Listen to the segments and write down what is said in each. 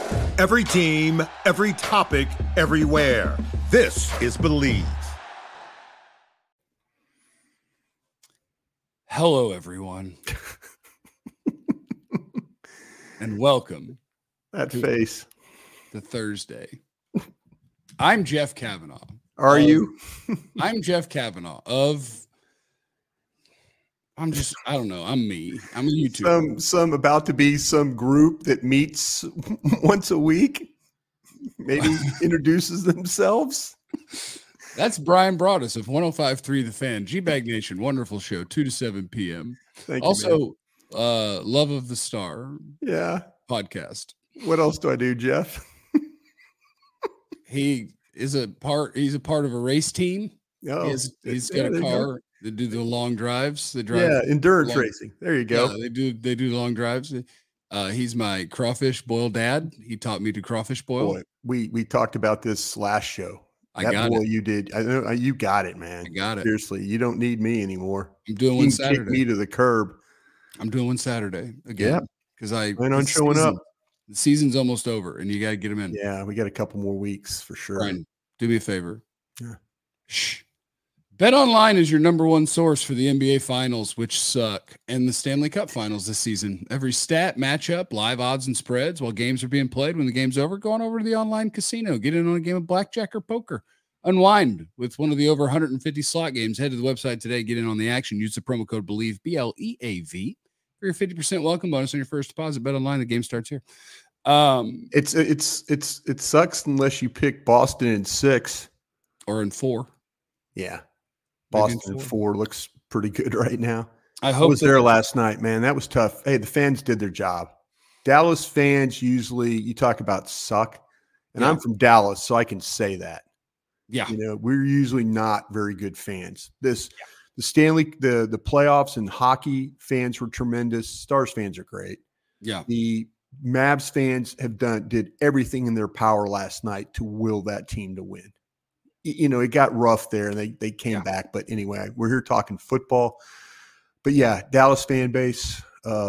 Every team, every topic, everywhere. This is Believe. Hello, everyone, and welcome That face. to Thursday. I'm Jeff Kavanaugh. Are you? I'm Jeff Kavanaugh I don't know. I'm me. I'm a YouTuber. Some about to be some group that meets once a week. Maybe introduces themselves. That's Brian Broaddus of 105.3 The Fan, G-Bag Nation. Wonderful show, 2 to 7 p.m. Thank you. Also, Love of the Star. Yeah. Podcast. What else do I do, Jeff? He's a part of a race team. Oh, he's got a car. They do the long drives. They drive. Yeah, endurance racing. There you go. Yeah, they do long drives. He's my crawfish boil dad. He taught me to crawfish boil. Boy, we talked about this last show. I got it. You did. I know you got it, man. I got it. Seriously, you don't need me anymore. I'm doing one Saturday. Kick me to the curb. I'm doing one Saturday again because I plan on showing up. The season's almost over, and you got to get them in. Yeah, we got a couple more weeks for sure. Brian, do me a favor. Yeah. Shh. BetOnline is your number one source for the NBA Finals, which suck, and the Stanley Cup Finals this season. Every stat, matchup, live odds, and spreads while games are being played. When the game's over, go on over to the online casino. Get in on a game of blackjack or poker. Unwind with one of the over 150 slot games. Head to the website today. Get in on the action. Use the promo code BELIEVE, BLEAV, for your 50% welcome bonus on your first deposit. BetOnline, the game starts here. It sucks unless you pick Boston in 6 or in 4. Yeah. Boston in 4 looks pretty good right now. I hope I was there last night, man. That was tough. Hey, the fans did their job. Dallas fans usually, you talk about suck, and I'm from Dallas, so I can say that. Yeah. You know, we're usually not very good fans. The Stanley, the playoffs and hockey fans were tremendous. Stars fans are great. Yeah. The Mavs fans did everything in their power last night to will that team to win. You know, it got rough there and they came back. But anyway, we're here talking football. But yeah, Dallas fan base,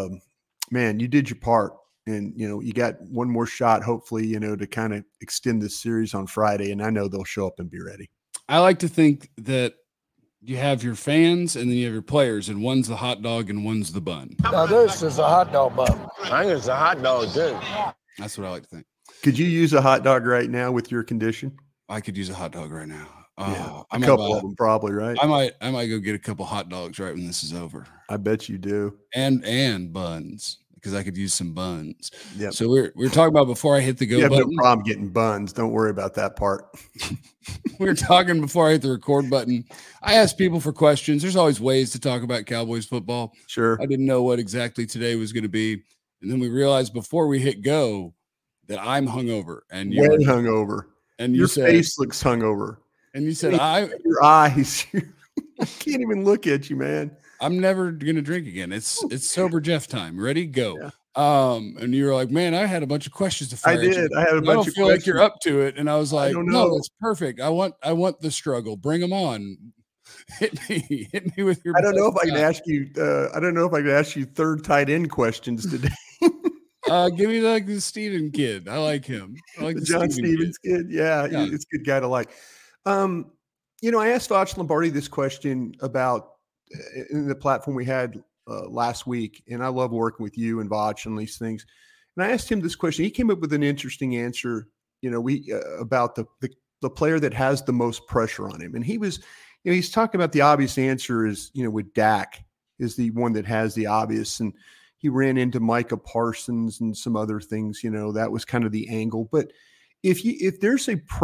man, you did your part. And, you know, you got one more shot, hopefully, you know, to kind of extend this series on Friday. And I know they'll show up and be ready. I like to think that you have your fans and then you have your players, and one's the hot dog and one's the bun. Now, this is a hot dog bun. I think it's a hot dog, too. That's what I like to think. Could you use a hot dog right now with your condition? I could use a hot dog right now. A couple of them probably, right? I might go get a couple hot dogs right when this is over. I bet you do. And buns, because I could use some buns. Yeah. So we were talking about before I hit the go button. You have no problem getting buns. Don't worry about that part. We were talking before I hit the record button. I asked people for questions. There's always ways to talk about Cowboys football. Sure. I didn't know what exactly today was going to be. And then we realized before we hit go that I'm hungover. And you're hungover. And your face looks hungover. And you said, your eyes, I can't even look at you, man. I'm never going to drink again. It's sober Jeff time. Ready? Go. Yeah. And you were like, man, I had a bunch of questions to fire. I did. I had a bunch of questions. I don't feel like you're up to it. And I was like, no, that's perfect. I want the struggle. Bring them on. Hit me with your. I don't know if I can ask you. I don't know if I can ask you third tight end questions today. Give me like the Steven kid. I like him. I like the John Stevens kid. Yeah, it's a good guy to like. You know, I asked Voch Lombardi this question about in the platform we had last week, and I love working with you and Voch on these things. And I asked him this question. He came up with an interesting answer. You know, about the player that has the most pressure on him, and he was, you know, he's talking about the obvious answer is, you know, with Dak is the one that has the obvious, and he ran into Micah Parsons and some other things. You know, that was kind of the angle. But if there's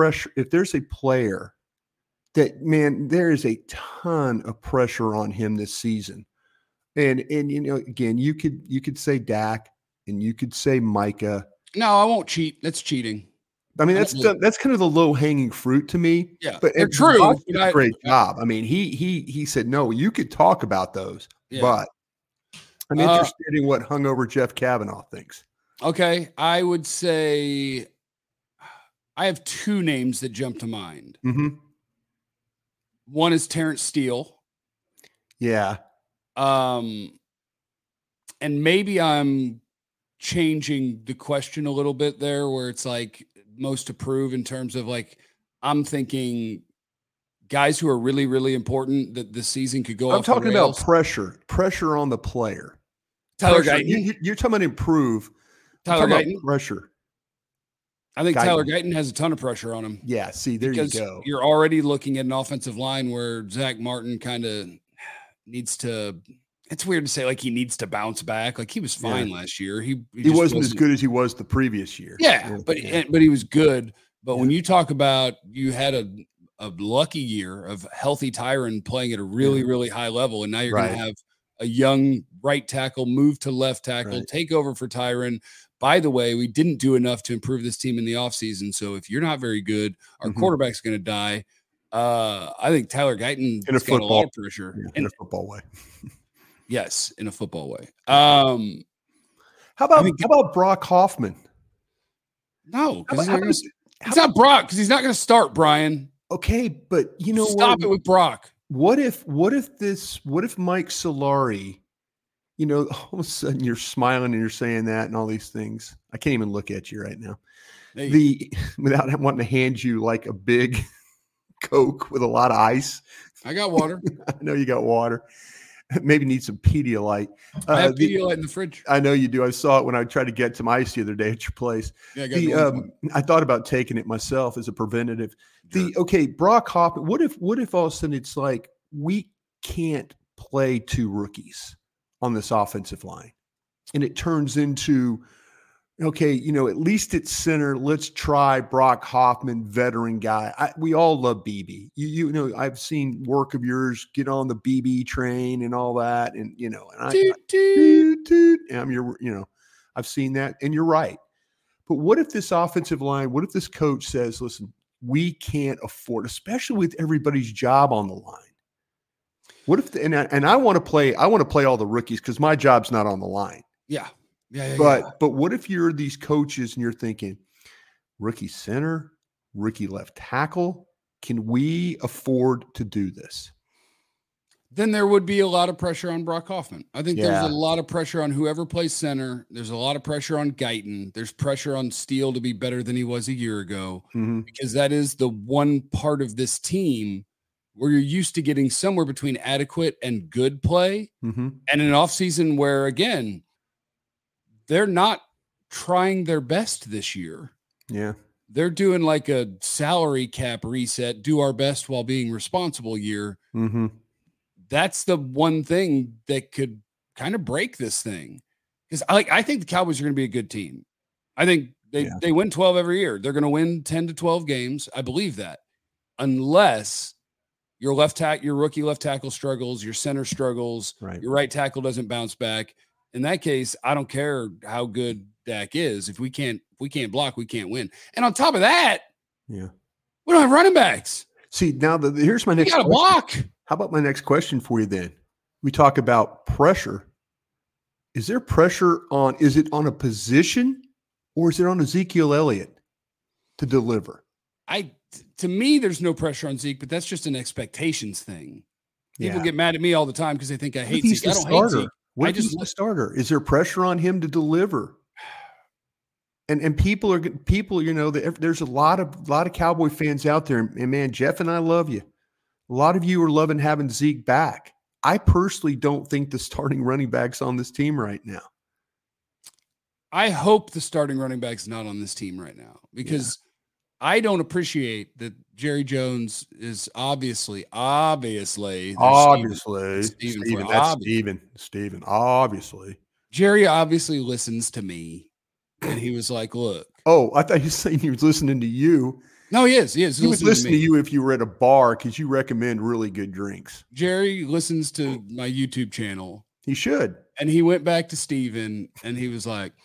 a player that, man, there is a ton of pressure on him this season. And you know, again, you could say Dak and you could say Micah. No, I won't cheat. That's cheating. I mean, that's kind of the low hanging fruit to me. Yeah, but they're true. Great job. I mean, he said, no, you could talk about those, but I'm interested in what hungover Jeff Kavanaugh thinks. Okay, I would say I have two names that jump to mind. Mm-hmm. One is Terrence Steele. Yeah. And maybe I'm changing the question a little bit there, where it's like most approved in terms of like, I'm thinking guys who are really, really important that the season could go. I'm talking about pressure on the player. Tyler Guyton. You're talking about improve. Tyler Guyton. Pressure. I think Tyler Guyton has a ton of pressure on him. Yeah, see, there you go. You're already looking at an offensive line where Zach Martin kind of needs to. It's weird to say like he needs to bounce back. Like he was fine last year. He wasn't as good as he was the previous year. Yeah, but he was good. But when you talk about you had a lucky year of healthy Tyron playing at a really, really high level, and now you're going to have a young right tackle move to left tackle, take over for Tyron. By the way, we didn't do enough to improve this team in the offseason. So if you're not very good, our quarterback's going to die. I think Tyler Guyton has got a lot of pressure. In a football way. Yes, in a football way. How about Brock Hoffman? No, because it's not Brock, because he's not going to start, Brian. Okay, but stop it with Brock. What if Mike Solari, all of a sudden you're smiling and you're saying that and all these things. I can't even look at you right now. Without wanting to hand you like a big Coke with a lot of ice. I got water. I know you got water. Maybe need some Pedialyte. I have Pedialyte in the fridge. I know you do. I saw it when I tried to get some ice the other day at your place. Yeah, I thought about taking it myself as a preventative. Sure. Brock Hoffman. What if all of a sudden it's like we can't play two rookies on this offensive line, and it turns into at least at center, let's try Brock Hoffman, veteran guy. We all love BB. I've seen work of yours, get on the BB train and all that. And, I've seen that, and you're right. But what if this offensive line, what if this coach says, listen, we can't afford, especially with everybody's job on the line. What if, I want to play all the rookies because my job's not on the line. Yeah. But what if you're these coaches and you're thinking, rookie center, rookie left tackle, can we afford to do this? Then there would be a lot of pressure on Brock Hoffman. I think there's a lot of pressure on whoever plays center. There's a lot of pressure on Guyton. There's pressure on Steele to be better than he was a year ago, because that is the one part of this team where you're used to getting somewhere between adequate and good play, and an offseason where, again, they're not trying their best this year. Yeah. They're doing like a salary cap reset, do our best while being responsible year. That's the one thing that could kind of break this thing. Because I think the Cowboys are going to be a good team. I think they win 12 every year. They're going to win 10 to 12 games. I believe that. Unless your rookie left tackle struggles, your center struggles, your right tackle doesn't bounce back. In that case, I don't care how good Dak is. If we can't block, we can't win. And on top of that, we don't have running backs. See, now here's my next question. Block. How about my next question for you then? We talk about pressure. Is there pressure is it on a position or is it on Ezekiel Elliott to deliver? To me, there's no pressure on Zeke, but that's just an expectations thing. People get mad at me all the time because they think I hate Zeke. I don't hate Zeke. What if he's the starter? Is there pressure on him to deliver? And people, there's a lot of Cowboy fans out there. And man, Jeff and I love you. A lot of you are loving having Zeke back. I personally don't think the starting running back's on this team right now. I hope the starting running back's not on this team right now, because I don't appreciate that Jerry Jones is obviously. Steven, obviously. Jerry obviously listens to me, and he was like, look. Oh, I thought he was saying he was listening to you. No, he is. He would listen to you if you were at a bar because you recommend really good drinks. Jerry listens to my YouTube channel. He should. And he went back to Steven, and he was like,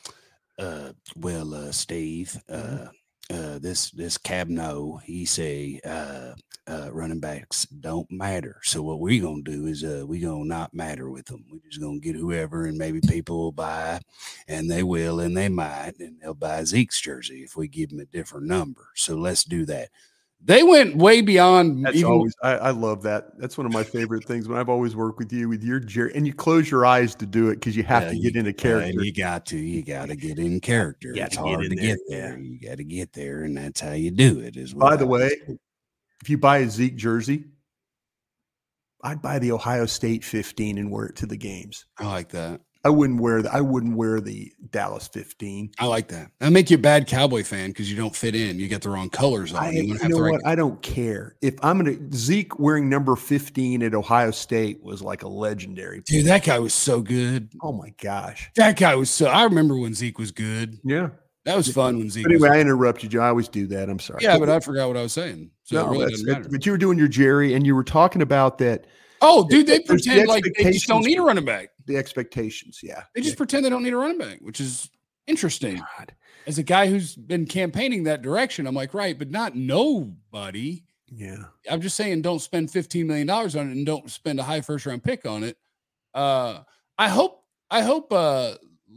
Steve, this Cabno, he say running backs don't matter. So what we're going to do is we're going to not matter with them. We're just going to get whoever, and maybe people will buy, and they will, and they might, and they'll buy Zeke's jersey if we give them a different number. So let's do that. They went way beyond. That's always, I love that. That's one of my favorite things when I've always worked with you, with your Jerry, and you close your eyes to do it because you have to get into character. You got to get in character. It's hard to get there. You got to get there, and that's how you do it. By the way, if you buy a Zeke jersey, I'd buy the Ohio State 15 and wear it to the games. I like that. I wouldn't wear the Dallas 15. I like that. That'll make you a bad Cowboy fan because you don't fit in. You get the wrong colors on. You know what? I don't care. If Zeke wearing number 15 at Ohio State was like a legendary. Dude, that guy was so good. Oh my gosh. That guy was so. I remember when Zeke was good. Yeah. That was fun when Zeke. Anyway, I interrupted you. I always do that. I'm sorry. Yeah, but I forgot what I was saying. So no, it really doesn't matter. But you were doing your Jerry, and you were talking about that. Oh, dude, they pretend like they just don't need a running back. The expectations, yeah. They just pretend they don't need a running back, which is interesting. God. As a guy who's been campaigning that direction, I'm like, right, but not nobody. Yeah. I'm just saying don't spend $15 million on it and don't spend a high first-round pick on it. I hope Leafau.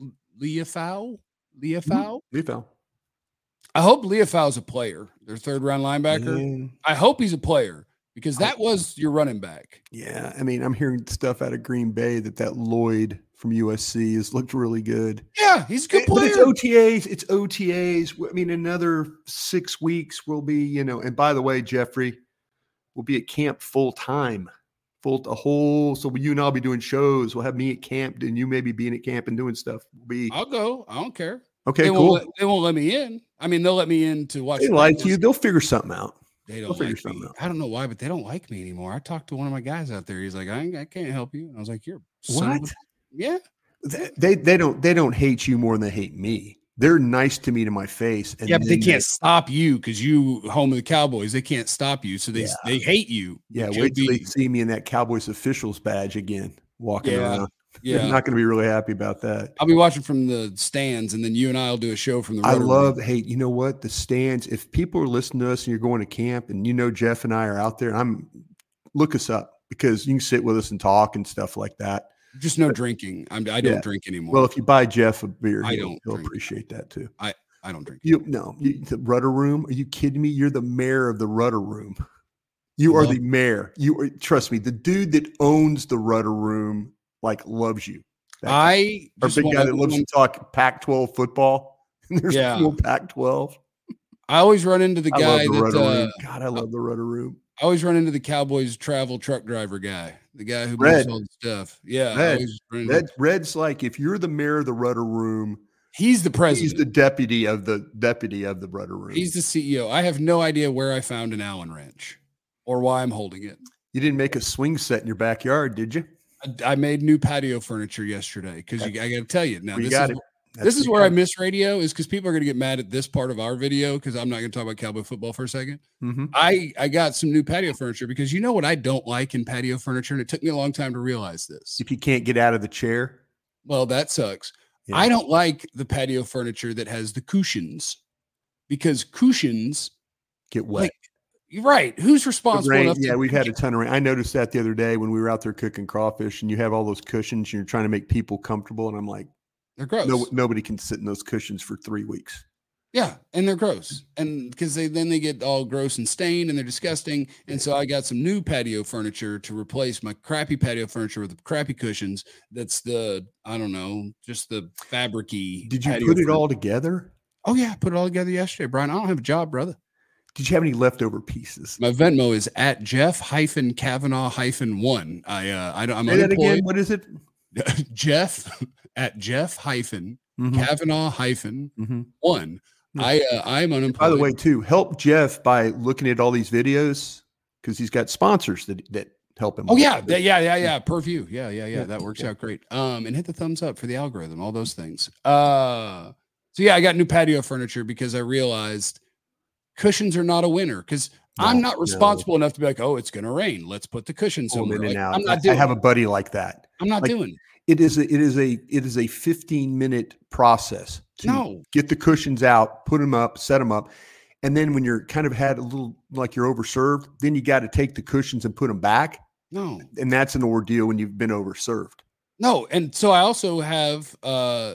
I hope Leafau's a player, their third-round linebacker. I hope he's a player. Because that was your running back. Yeah. I mean, I'm hearing stuff out of Green Bay that Lloyd from USC has looked really good. Yeah, he's a good player. But it's OTAs. I mean, another 6 weeks will be, and by the way, Jeffrey, we'll be at camp full time. So you and I'll be doing shows. We'll have me at camp and you maybe being at camp and doing stuff. I'll go. I don't care. Okay, cool. They won't let me in. I mean, they'll let me in to watch. They like you. They'll figure something out. They don't like me. I don't know why, but they don't like me anymore. I talked to one of my guys out there. He's like, I can't help you. And I was like, you're what? Yeah. They don't hate you more than they hate me. They're nice to me to my face. And but they can't stop you because you home of the Cowboys. They can't stop you. So they hate you. Yeah. Wait till they see me in that Cowboys officials badge again, walking around. Yeah. I'm not going to be really happy about that. I'll be watching from the stands, and then you and I will do a show from the hey, you know what? The stands, if people are listening to us and you're going to camp and Jeff and I are out there, look us up because you can sit with us and talk and stuff like that. Just no drinking. I don't drink anymore. Well, if you buy Jeff a beer, he'll appreciate that too. I don't drink. The Rudder Room. Are you kidding me? You're the mayor of the Rudder Room. You are the mayor. Trust me, the dude that owns the Rudder Room loves you. Our big guy that loves to talk Pac-12 football. There's no Pac-12. I always run into the guy that God, I love the Rudder Room. I always run into the Cowboys travel truck driver guy, the guy who moves all the stuff. Yeah, Red's like, if you're the mayor of the Rudder Room, he's the president. He's the deputy of the Rudder Room. He's the CEO. I have no idea where I found an Allen wrench or why I'm holding it. You didn't make a swing set in your backyard, did you? I made new patio furniture yesterday because I got to tell you now. This is where I miss radio is because people are going to get mad at this part of our video because I'm not going to talk about Cowboy football for a second. Mm-hmm. I got some new patio furniture because you know what I don't like in patio furniture, and it took me a long time to realize this. If you can't get out of the chair, well, that sucks. Yeah. I don't like the patio furniture that has the cushions because cushions get wet. Right. Who's responsible enough? Yeah, we've had a ton of rain. I noticed that the other day when we were out there cooking crawfish and you have all those cushions and you're trying to make people comfortable. And I'm like, they're gross. Nobody can sit in those cushions for 3 weeks. Yeah. And they're gross. And because they get all gross and stained and they're disgusting. And so I got some new patio furniture to replace my crappy patio furniture with the crappy cushions. That's just the fabric-y. Did you put it all together? Oh, yeah. I put it all together yesterday, Brian. I don't have a job, brother. Did you have any leftover pieces? My Venmo is at Jeff-Kavanaugh-1. I'm Say unemployed. That again. What is it? Jeff at Jeff-Kavanaugh-1. Mm-hmm. I'm unemployed. By the way, too, help Jeff by looking at all these videos because he's got sponsors that help him. Oh yeah. Per view. Yeah. That works out great. And hit the thumbs up for the algorithm. All those things. So yeah, I got new patio furniture because I realized cushions are not a winner because I'm not responsible enough to be like, oh, it's going to rain. Let's put the cushion somewhere. I'm not doing. I have a buddy like that. I'm not doing. It is a 15-minute process to get the cushions out, put them up, set them up. And then when you're kind of had a little like you're overserved, then you got to take the cushions and put them back. No. And that's an ordeal when you've been overserved. No. And so I also have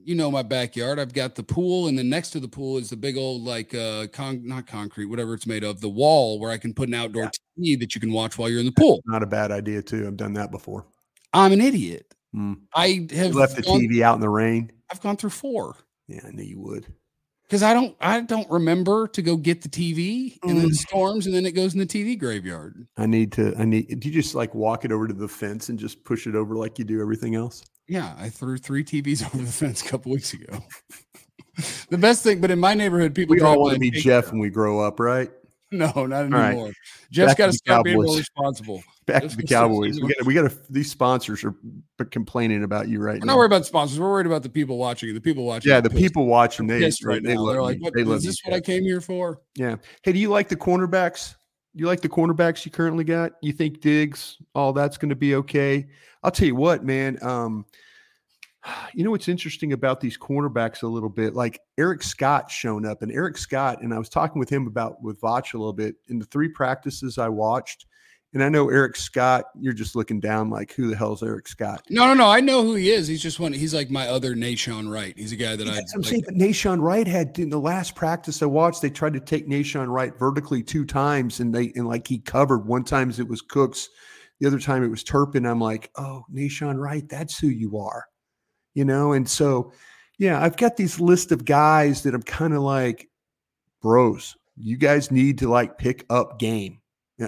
my backyard. I've got the pool, and then next to the pool is the big old not concrete, whatever it's made of, the wall where I can put an outdoor TV that you can watch while you're in the pool. Not a bad idea too. I've done that before. I'm an idiot. I have left the TV out in the rain. I've gone through 4. Yeah, I knew you would. Because I don't remember to go get the TV, and then it storms, and then it goes in the TV graveyard. Do you just like walk it over to the fence and just push it over like you do everything else? Yeah, I threw 3 TVs over the fence a couple weeks ago. The best thing, but in my neighborhood, people we all want to be Jeff when we grow up, right? No, not anymore. Right. Jeff's got to start being more responsible. Back to the Cowboys. We got these sponsors are complaining about you right now. We're not worried about sponsors. We're worried about the people watching. The people watching. Yeah, the people watching. They right now. They're like, is this what I came here for? Yeah. Hey, do you like the cornerbacks? You like the cornerbacks you currently got? You think Diggs, all that's going to be okay? I'll tell you what, man. You know what's interesting about these cornerbacks a little bit? Like Eric Scott shown up, and Eric Scott, and I was talking with him with Vach a little bit in the 3 practices I watched. And I know Eric Scott, you're just looking down like, who the hell's Eric Scott? No. I know who he is. He's just he's like my other Nahshon Wright. He's a guy that I'm saying, but Nahshon Wright had, in the last practice I watched, they tried to take Nahshon Wright vertically 2 times, and he covered. One time it was Cooks, the other time it was Turpin. I'm like, oh, Nahshon Wright, that's who you are. And so, yeah, I've got these list of guys that I'm kind of like, bros, you guys need to like pick up game. Yeah.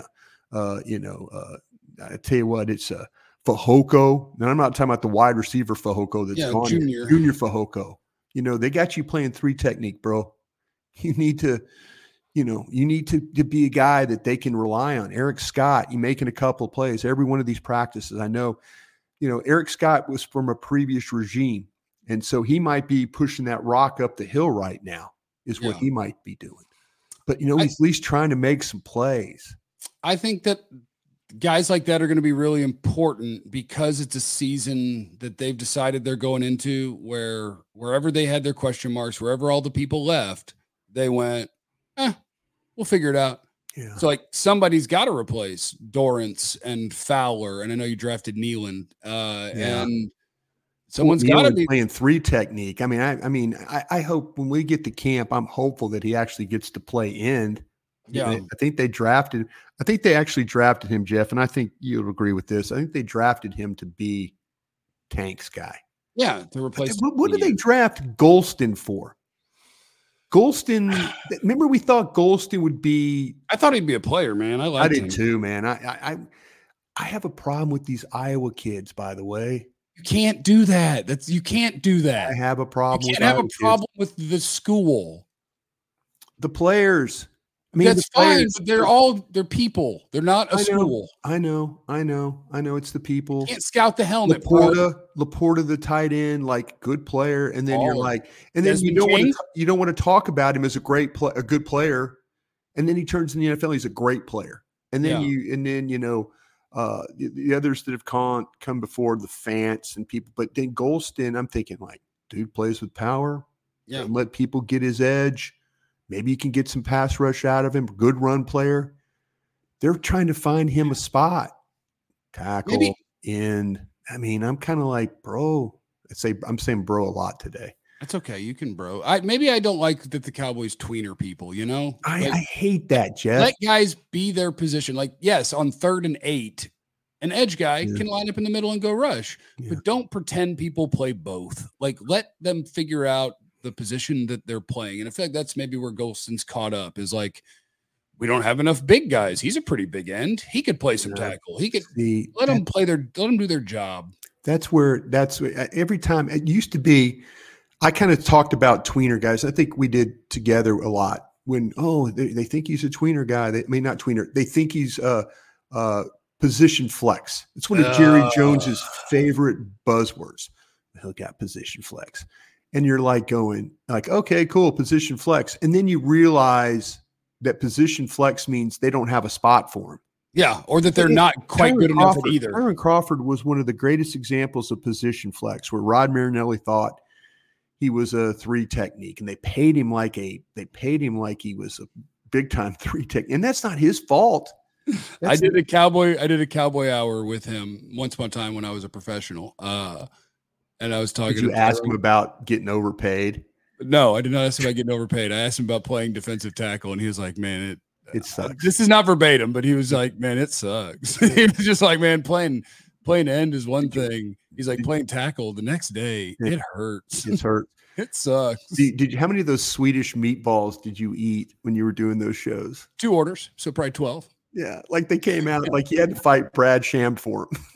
I tell you what, it's Fehoko. And I'm not talking about the wide receiver Fehoko that's gone. Junior Fehoko. They got you playing 3 technique, bro. You need to be a guy that they can rely on. Eric Scott, you making a couple of plays every one of these practices. I know, Eric Scott was from a previous regime, and so he might be pushing that rock up the hill right now is what he might be doing. But, he's at least trying to make some plays. I think that guys like that are going to be really important because it's a season that they've decided they're going into where wherever they had their question marks, wherever all the people left, they went, we'll figure it out. Yeah. So somebody's got to replace Dorrance and Fowler. And I know you drafted Nealon and someone's got to be playing 3 technique. I mean, I hope when we get to camp, I'm hopeful that he actually gets to play end. Yeah. I think they actually drafted him, Jeff. And I think you'll agree with this. I think they drafted him to be Tank's guy. Yeah. To replace. What did they draft Golston for? Golston, remember we thought Golston would be. I thought he'd be a player, man. I did too, man. I have a problem with these Iowa kids, by the way. You can't do that. You can't do that. I have a problem. You can't have a problem with the school. The players. That's fine, but they're people. They're not a school. I know. It's the people. You can't scout the helmet. Laporta, the tight end, like good player, and then you're like, and then you don't want to talk about him as a good player, and then he turns in the NFL. He's a great player, and then the others that have come before, the Fants and people, but then Golston, I'm thinking like, dude plays with power. Yeah, and let people get his edge. Maybe you can get some pass rush out of him. Good run player. They're trying to find him a spot. Tackle, end. I'm kind of like, bro. I'm saying bro a lot today. That's okay. You can bro. Maybe I don't like that the Cowboys tweener people, I hate that, Jeff. Let guys be their position. Like, yes, on 3rd and 8, an edge guy can line up in the middle and go rush. Yeah. But don't pretend people play both. Like, let them figure out the position that they're playing. And I feel like that's maybe where Golston's caught up is like, we don't have enough big guys. He's a pretty big end. He could play some tackle. He could let them do their job. That's every time it used to be. I kind of talked about tweener guys. I think we did together a lot when, they think he's a tweener guy. Not tweener. They think he's position flex. It's one of Jerry Jones's favorite buzzwords. He'll got position flex. And you're like going like, okay, cool, position flex. And then you realize that position flex means they don't have a spot for him. Yeah, or that they're not quite good enough at either. Tyron Crawford was one of the greatest examples of position flex where Rod Marinelli thought he was a 3 technique, and they paid him like he was a big time 3 technique. And that's not his fault. I did a cowboy hour with him once upon a time when I was a professional. And I was talking. Did you ask him about getting overpaid? No, I did not ask him about getting overpaid. I asked him about playing defensive tackle, and he was like, "Man, it sucks." This is not verbatim, but he was like, "Man, it sucks." He was just like, "Man, playing end is one thing." He's like, "Playing tackle the next day, it hurts. It hurts. It sucks." Did you? How many of those Swedish meatballs did you eat when you were doing those shows? 2 orders, so probably 12. Yeah, like they came out like you had to fight Brad Sham for them.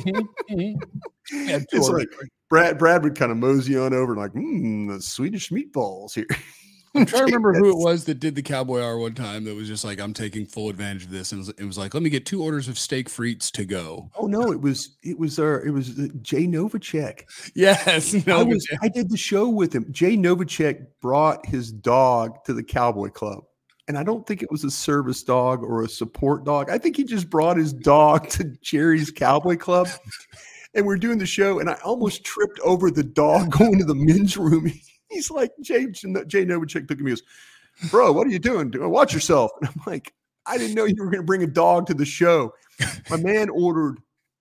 Yeah, it's like Brad would kind of mosey on over and like, the Swedish meatballs here. I'm trying to remember who it was that did the Cowboy Hour one time that was just like, I'm taking full advantage of this. And it was like, let me get 2 orders of steak frites to go. Oh no, it was Jay Novacek. Yes. I did the show with him. Jay Novacek brought his dog to the Cowboy Club. And I don't think it was a service dog or a support dog. I think he just brought his dog to Jerry's Cowboy Club. And we're doing the show, and I almost tripped over the dog going to the men's room. He's like, Jay Novacek took me, he goes, "Bro, what are you doing? Watch yourself." And I'm like, I didn't know you were going to bring a dog to the show. My man ordered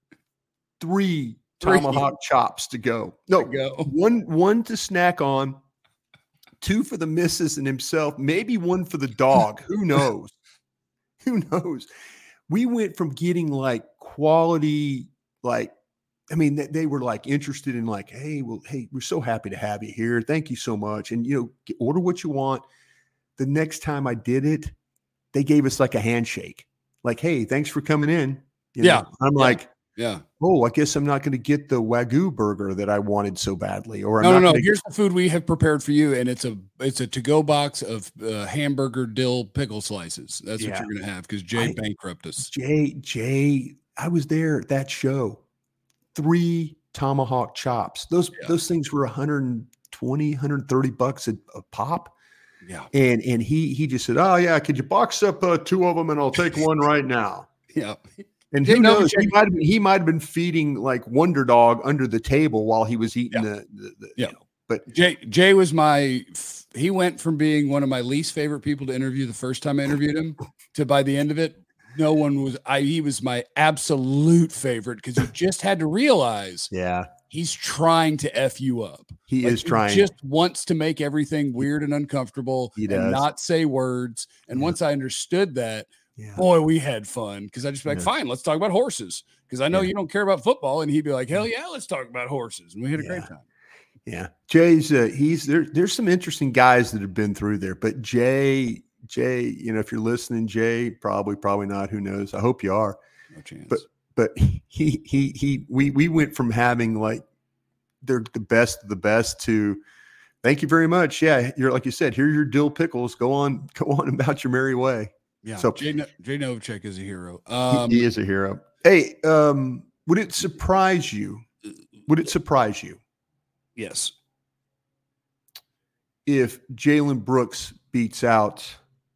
3 tomahawk chops to go. No, one to snack on, 2 for the missus and himself, maybe 1 for the dog. Who knows? Who knows? We went from getting like quality, like, I mean, they were like interested in like, hey, we're so happy to have you here. Thank you so much. And, order what you want. The next time I did it, they gave us like a handshake. Like, hey, thanks for coming in. I'm like, oh, I guess I'm not going to get the Wagyu burger that I wanted so badly. Or no. Here's the food we have prepared for you, and it's a to-go box of hamburger dill pickle slices. That's what you're going to have because Jay bankrupted us. Jay, I was there at that show. 3 tomahawk chops. Those things were $120, $130 a pop. Yeah. And he just said, "Oh yeah, could you box up 2 of them and I'll take one right now." Yeah. And who knows? He might have been feeding like Wonder Dog under the table while he was eating the But Jay was he went from being one of my least favorite people to interview the first time I interviewed him to by the end of it, no one was. He was my absolute favorite because you just had to realize, he's trying to F you up. He is trying. He just wants to make everything weird and uncomfortable and not say words. And once I understood that, boy, we had fun because I just be like, fine, let's talk about horses because I know you don't care about football, and he'd be like, hell yeah, let's talk about horses, and we had a great time. Yeah, Jay's he's there. There's some interesting guys that have been through there, but Jay, if you're listening, Jay, probably not. Who knows? I hope you are. No chance. But we went from having like they're the best of the best to thank you very much. Yeah, you're like you said, here's your dill pickles. Go on about your merry way. Yeah. So Jay Novacek is a hero. He is a hero. Hey, would it surprise you? Yes. If Jalen Brooks beats out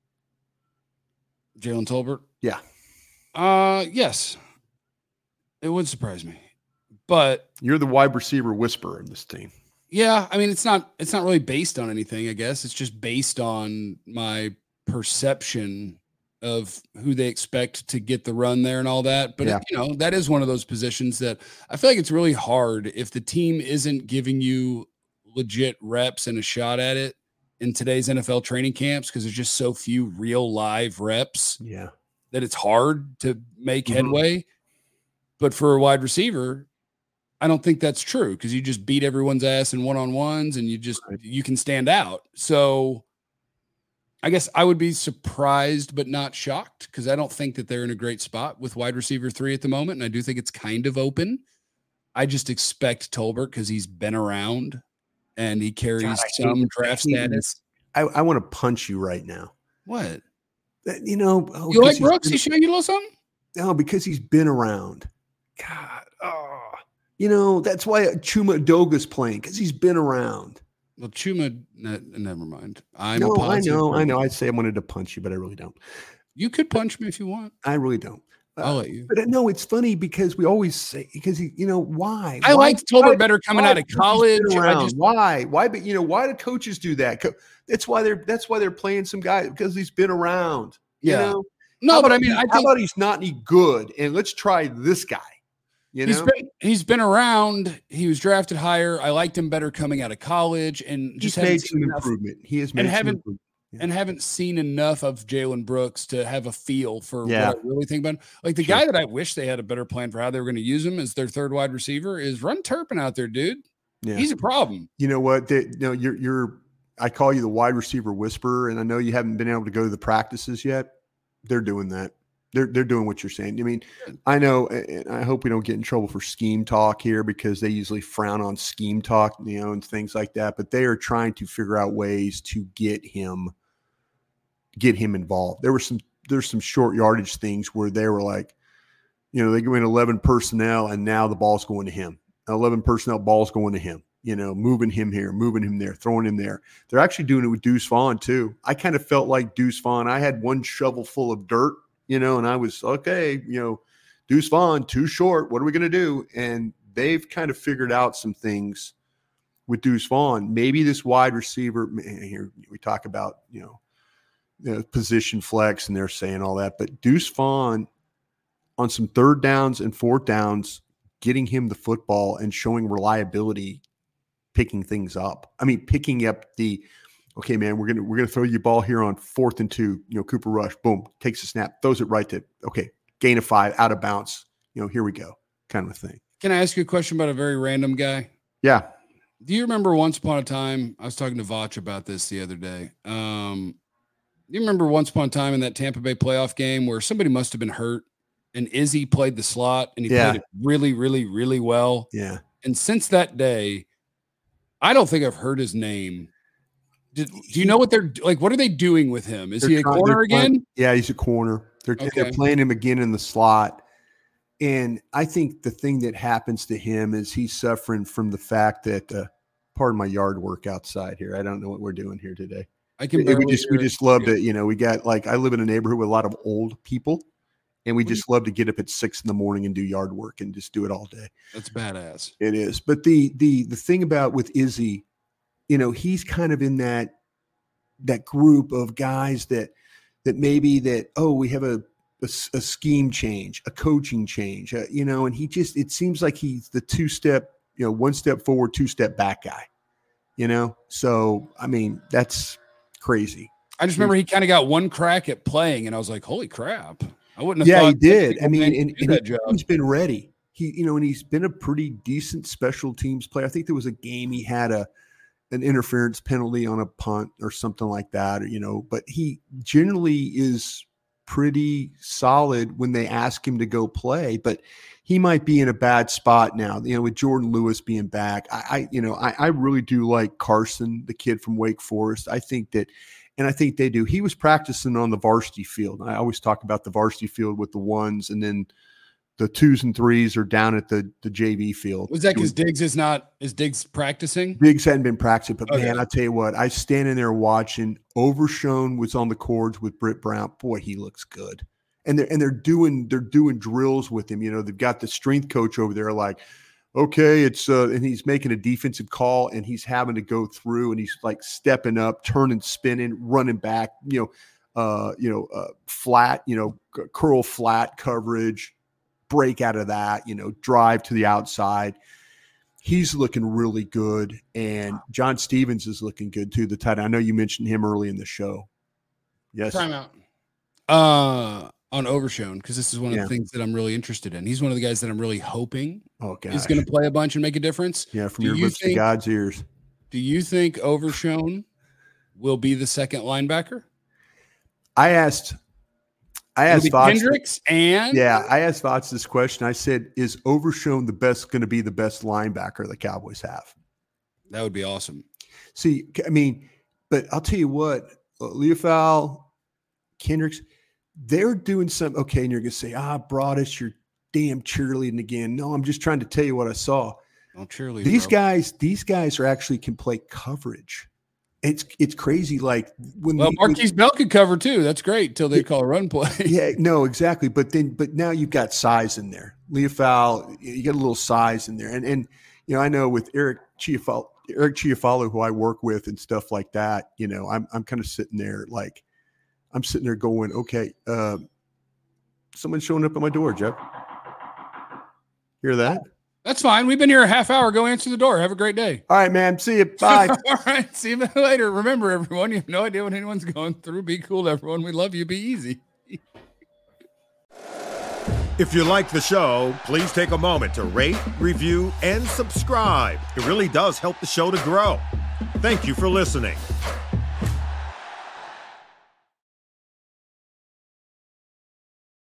Jalen Tolbert? Yeah. Yes. It would surprise me. But you're the wide receiver whisperer in this team. Yeah, I mean it's not really based on anything, I guess. It's just based on my perception of who they expect to get the run there and all that. But that is one of those positions that I feel like it's really hard if the team isn't giving you legit reps and a shot at it in today's NFL training camps because there's just so few real live reps that it's hard to make headway. But for a wide receiver, I don't think that's true because you just beat everyone's ass in one-on-ones and you can stand out. So I guess I would be surprised but not shocked because I don't think that they're in a great spot with wide receiver 3 at the moment. And I do think it's kind of open. I just expect Tolbert because he's been around and he carries some draft status. I want to punch you right now. What? You like Brooks? He's showing you a little something? No, because he's been around. God. Oh. That's why Chuma Doga's playing because he's been around. Well, Chuma, never mind. I know. I'd say I wanted to punch you, but I really don't. You could punch me if you want. I really don't. I'll let you. But no, it's funny because we always say why? I liked Tolbert better coming out of college. Why? But why do coaches do that? That's why they're playing some guy because he's been around. Yeah. No, but I mean, how about he's not any good, and let's try this guy. You know, he's been around. He was drafted higher. I liked him better coming out of college, and just made some improvement. He has made some improvement. And haven't seen enough of Jalen Brooks to have a feel for what I really think about him. Like the guy that I wish they had a better plan for how they were going to use him as their third wide receiver is run Turpin out there, dude. Yeah. He's a problem. You know what? I call you the wide receiver whisperer, and I know you haven't been able to go to the practices yet. They're doing that. They're doing what you're saying. I mean, I know, and I hope we don't get in trouble for scheme talk here because they usually frown on scheme talk, and things like that. But they are trying to figure out ways to get him involved. There's some short yardage things where they were like, they go in 11 personnel and now the ball's going to him. 11 personnel, ball's going to him. Moving him here, moving him there, throwing him there. They're actually doing it with Deuce Vaughn too. I kind of felt like Deuce Vaughn. I had one shovel full of dirt, and I was okay. Deuce Vaughn too short. What are we going to do? And they've kind of figured out some things with Deuce Vaughn. Maybe this wide receiver. Here we talk about position flex, and they're saying all that, but Deuce Vaughn on some third downs and fourth downs, getting him the football and showing reliability, picking things up. I mean, picking up okay, man, we're gonna throw you a ball here on 4th and 2. Cooper Rush, boom, takes a snap, throws it right to gain of 5, out of bounds. Here we go, kind of a thing. Can I ask you a question about a very random guy? Yeah. Do you remember once upon a time? I was talking to Vach about this the other day. You remember once upon a time in that Tampa Bay playoff game where somebody must have been hurt and Izzy played the slot and he played it really, really, really well. Yeah. And since that day, I don't think I've heard his name. Do you know what they're like? What are they doing with him? Is he a corner again? Yeah, he's a corner. They're playing him again in the slot. And I think the thing that happens to him is he's suffering from the fact that, pardon my yard work outside here. I don't know what we're doing here today. We just love to, we got I live in a neighborhood with a lot of old people, and we just love to get up at 6 a.m. and do yard work and just do it all day. That's badass. It is. But the thing about with Izzy, he's kind of in that group of guys that maybe we have a scheme change, a coaching change, and it seems like he's the 2-step, 1 step forward, 2-step back guy, So, I mean, that's crazy. I just remember he kind of got one crack at playing, and I was like, "Holy crap!" I wouldn't have. Yeah, he did. I mean, and he's been ready. And he's been a pretty decent special teams player. I think there was a game he had an interference penalty on a punt or something like that, But he generally is pretty solid when they ask him to go play. But he might be in a bad spot now, with Jordan Lewis being back. I really do like Carson, the kid from Wake Forest. I think they do. He was practicing on the varsity field. I always talk about the varsity field with the 1s, and then the 2s and 3s are down at the JV field. Was that because Diggs practicing? Diggs hadn't been practicing, but man, I tell you what, I standing there watching. Overshone was on the cords with Britt Brown. Boy, he looks good. And they're doing drills with him. They've got the strength coach over there, like, okay, it's and he's making a defensive call, and he's having to go through, and he's like stepping up, turning, spinning, running back, flat, curl flat coverage, break out of that, drive to the outside. He's looking really good, and John Stevens is looking good too. The tight end. I know you mentioned him early in the show. Yes. Timeout. On Overshone, because this is one of the things that I'm really interested in. He's one of the guys that I'm really hoping is going to play a bunch and make a difference. Yeah, from your lips to God's ears. Do you think Overshone will be the second linebacker? I asked Kendricks I asked Vach this question. I said, is Overshone going to be the best linebacker the Cowboys have? That would be awesome. See, I mean, but I'll tell you what, Leofau, Kendricks, they're doing some okay, and you're going to say, Broadus, you're damn cheerleading again. No, I'm just trying to tell you what I saw. Don't cheerlead. These guys are actually can play coverage. It's crazy. Like Marquise Bell could cover too. That's great till they call a run play. Yeah, no, exactly. But now you've got size in there. Leofau, you got a little size in there, and I know with Eric Chiafalo, who I work with and stuff like that. I'm kind of sitting there like. I'm sitting there going, okay, someone's showing up at my door, Jeff. Hear that? That's fine. We've been here a half hour. Go answer the door. Have a great day. All right, man. See you. Bye. All right. See you later. Remember, everyone, you have no idea what anyone's going through. Be cool to everyone. We love you. Be easy. If you like the show, please take a moment to rate, review, and subscribe. It really does help the show to grow. Thank you for listening.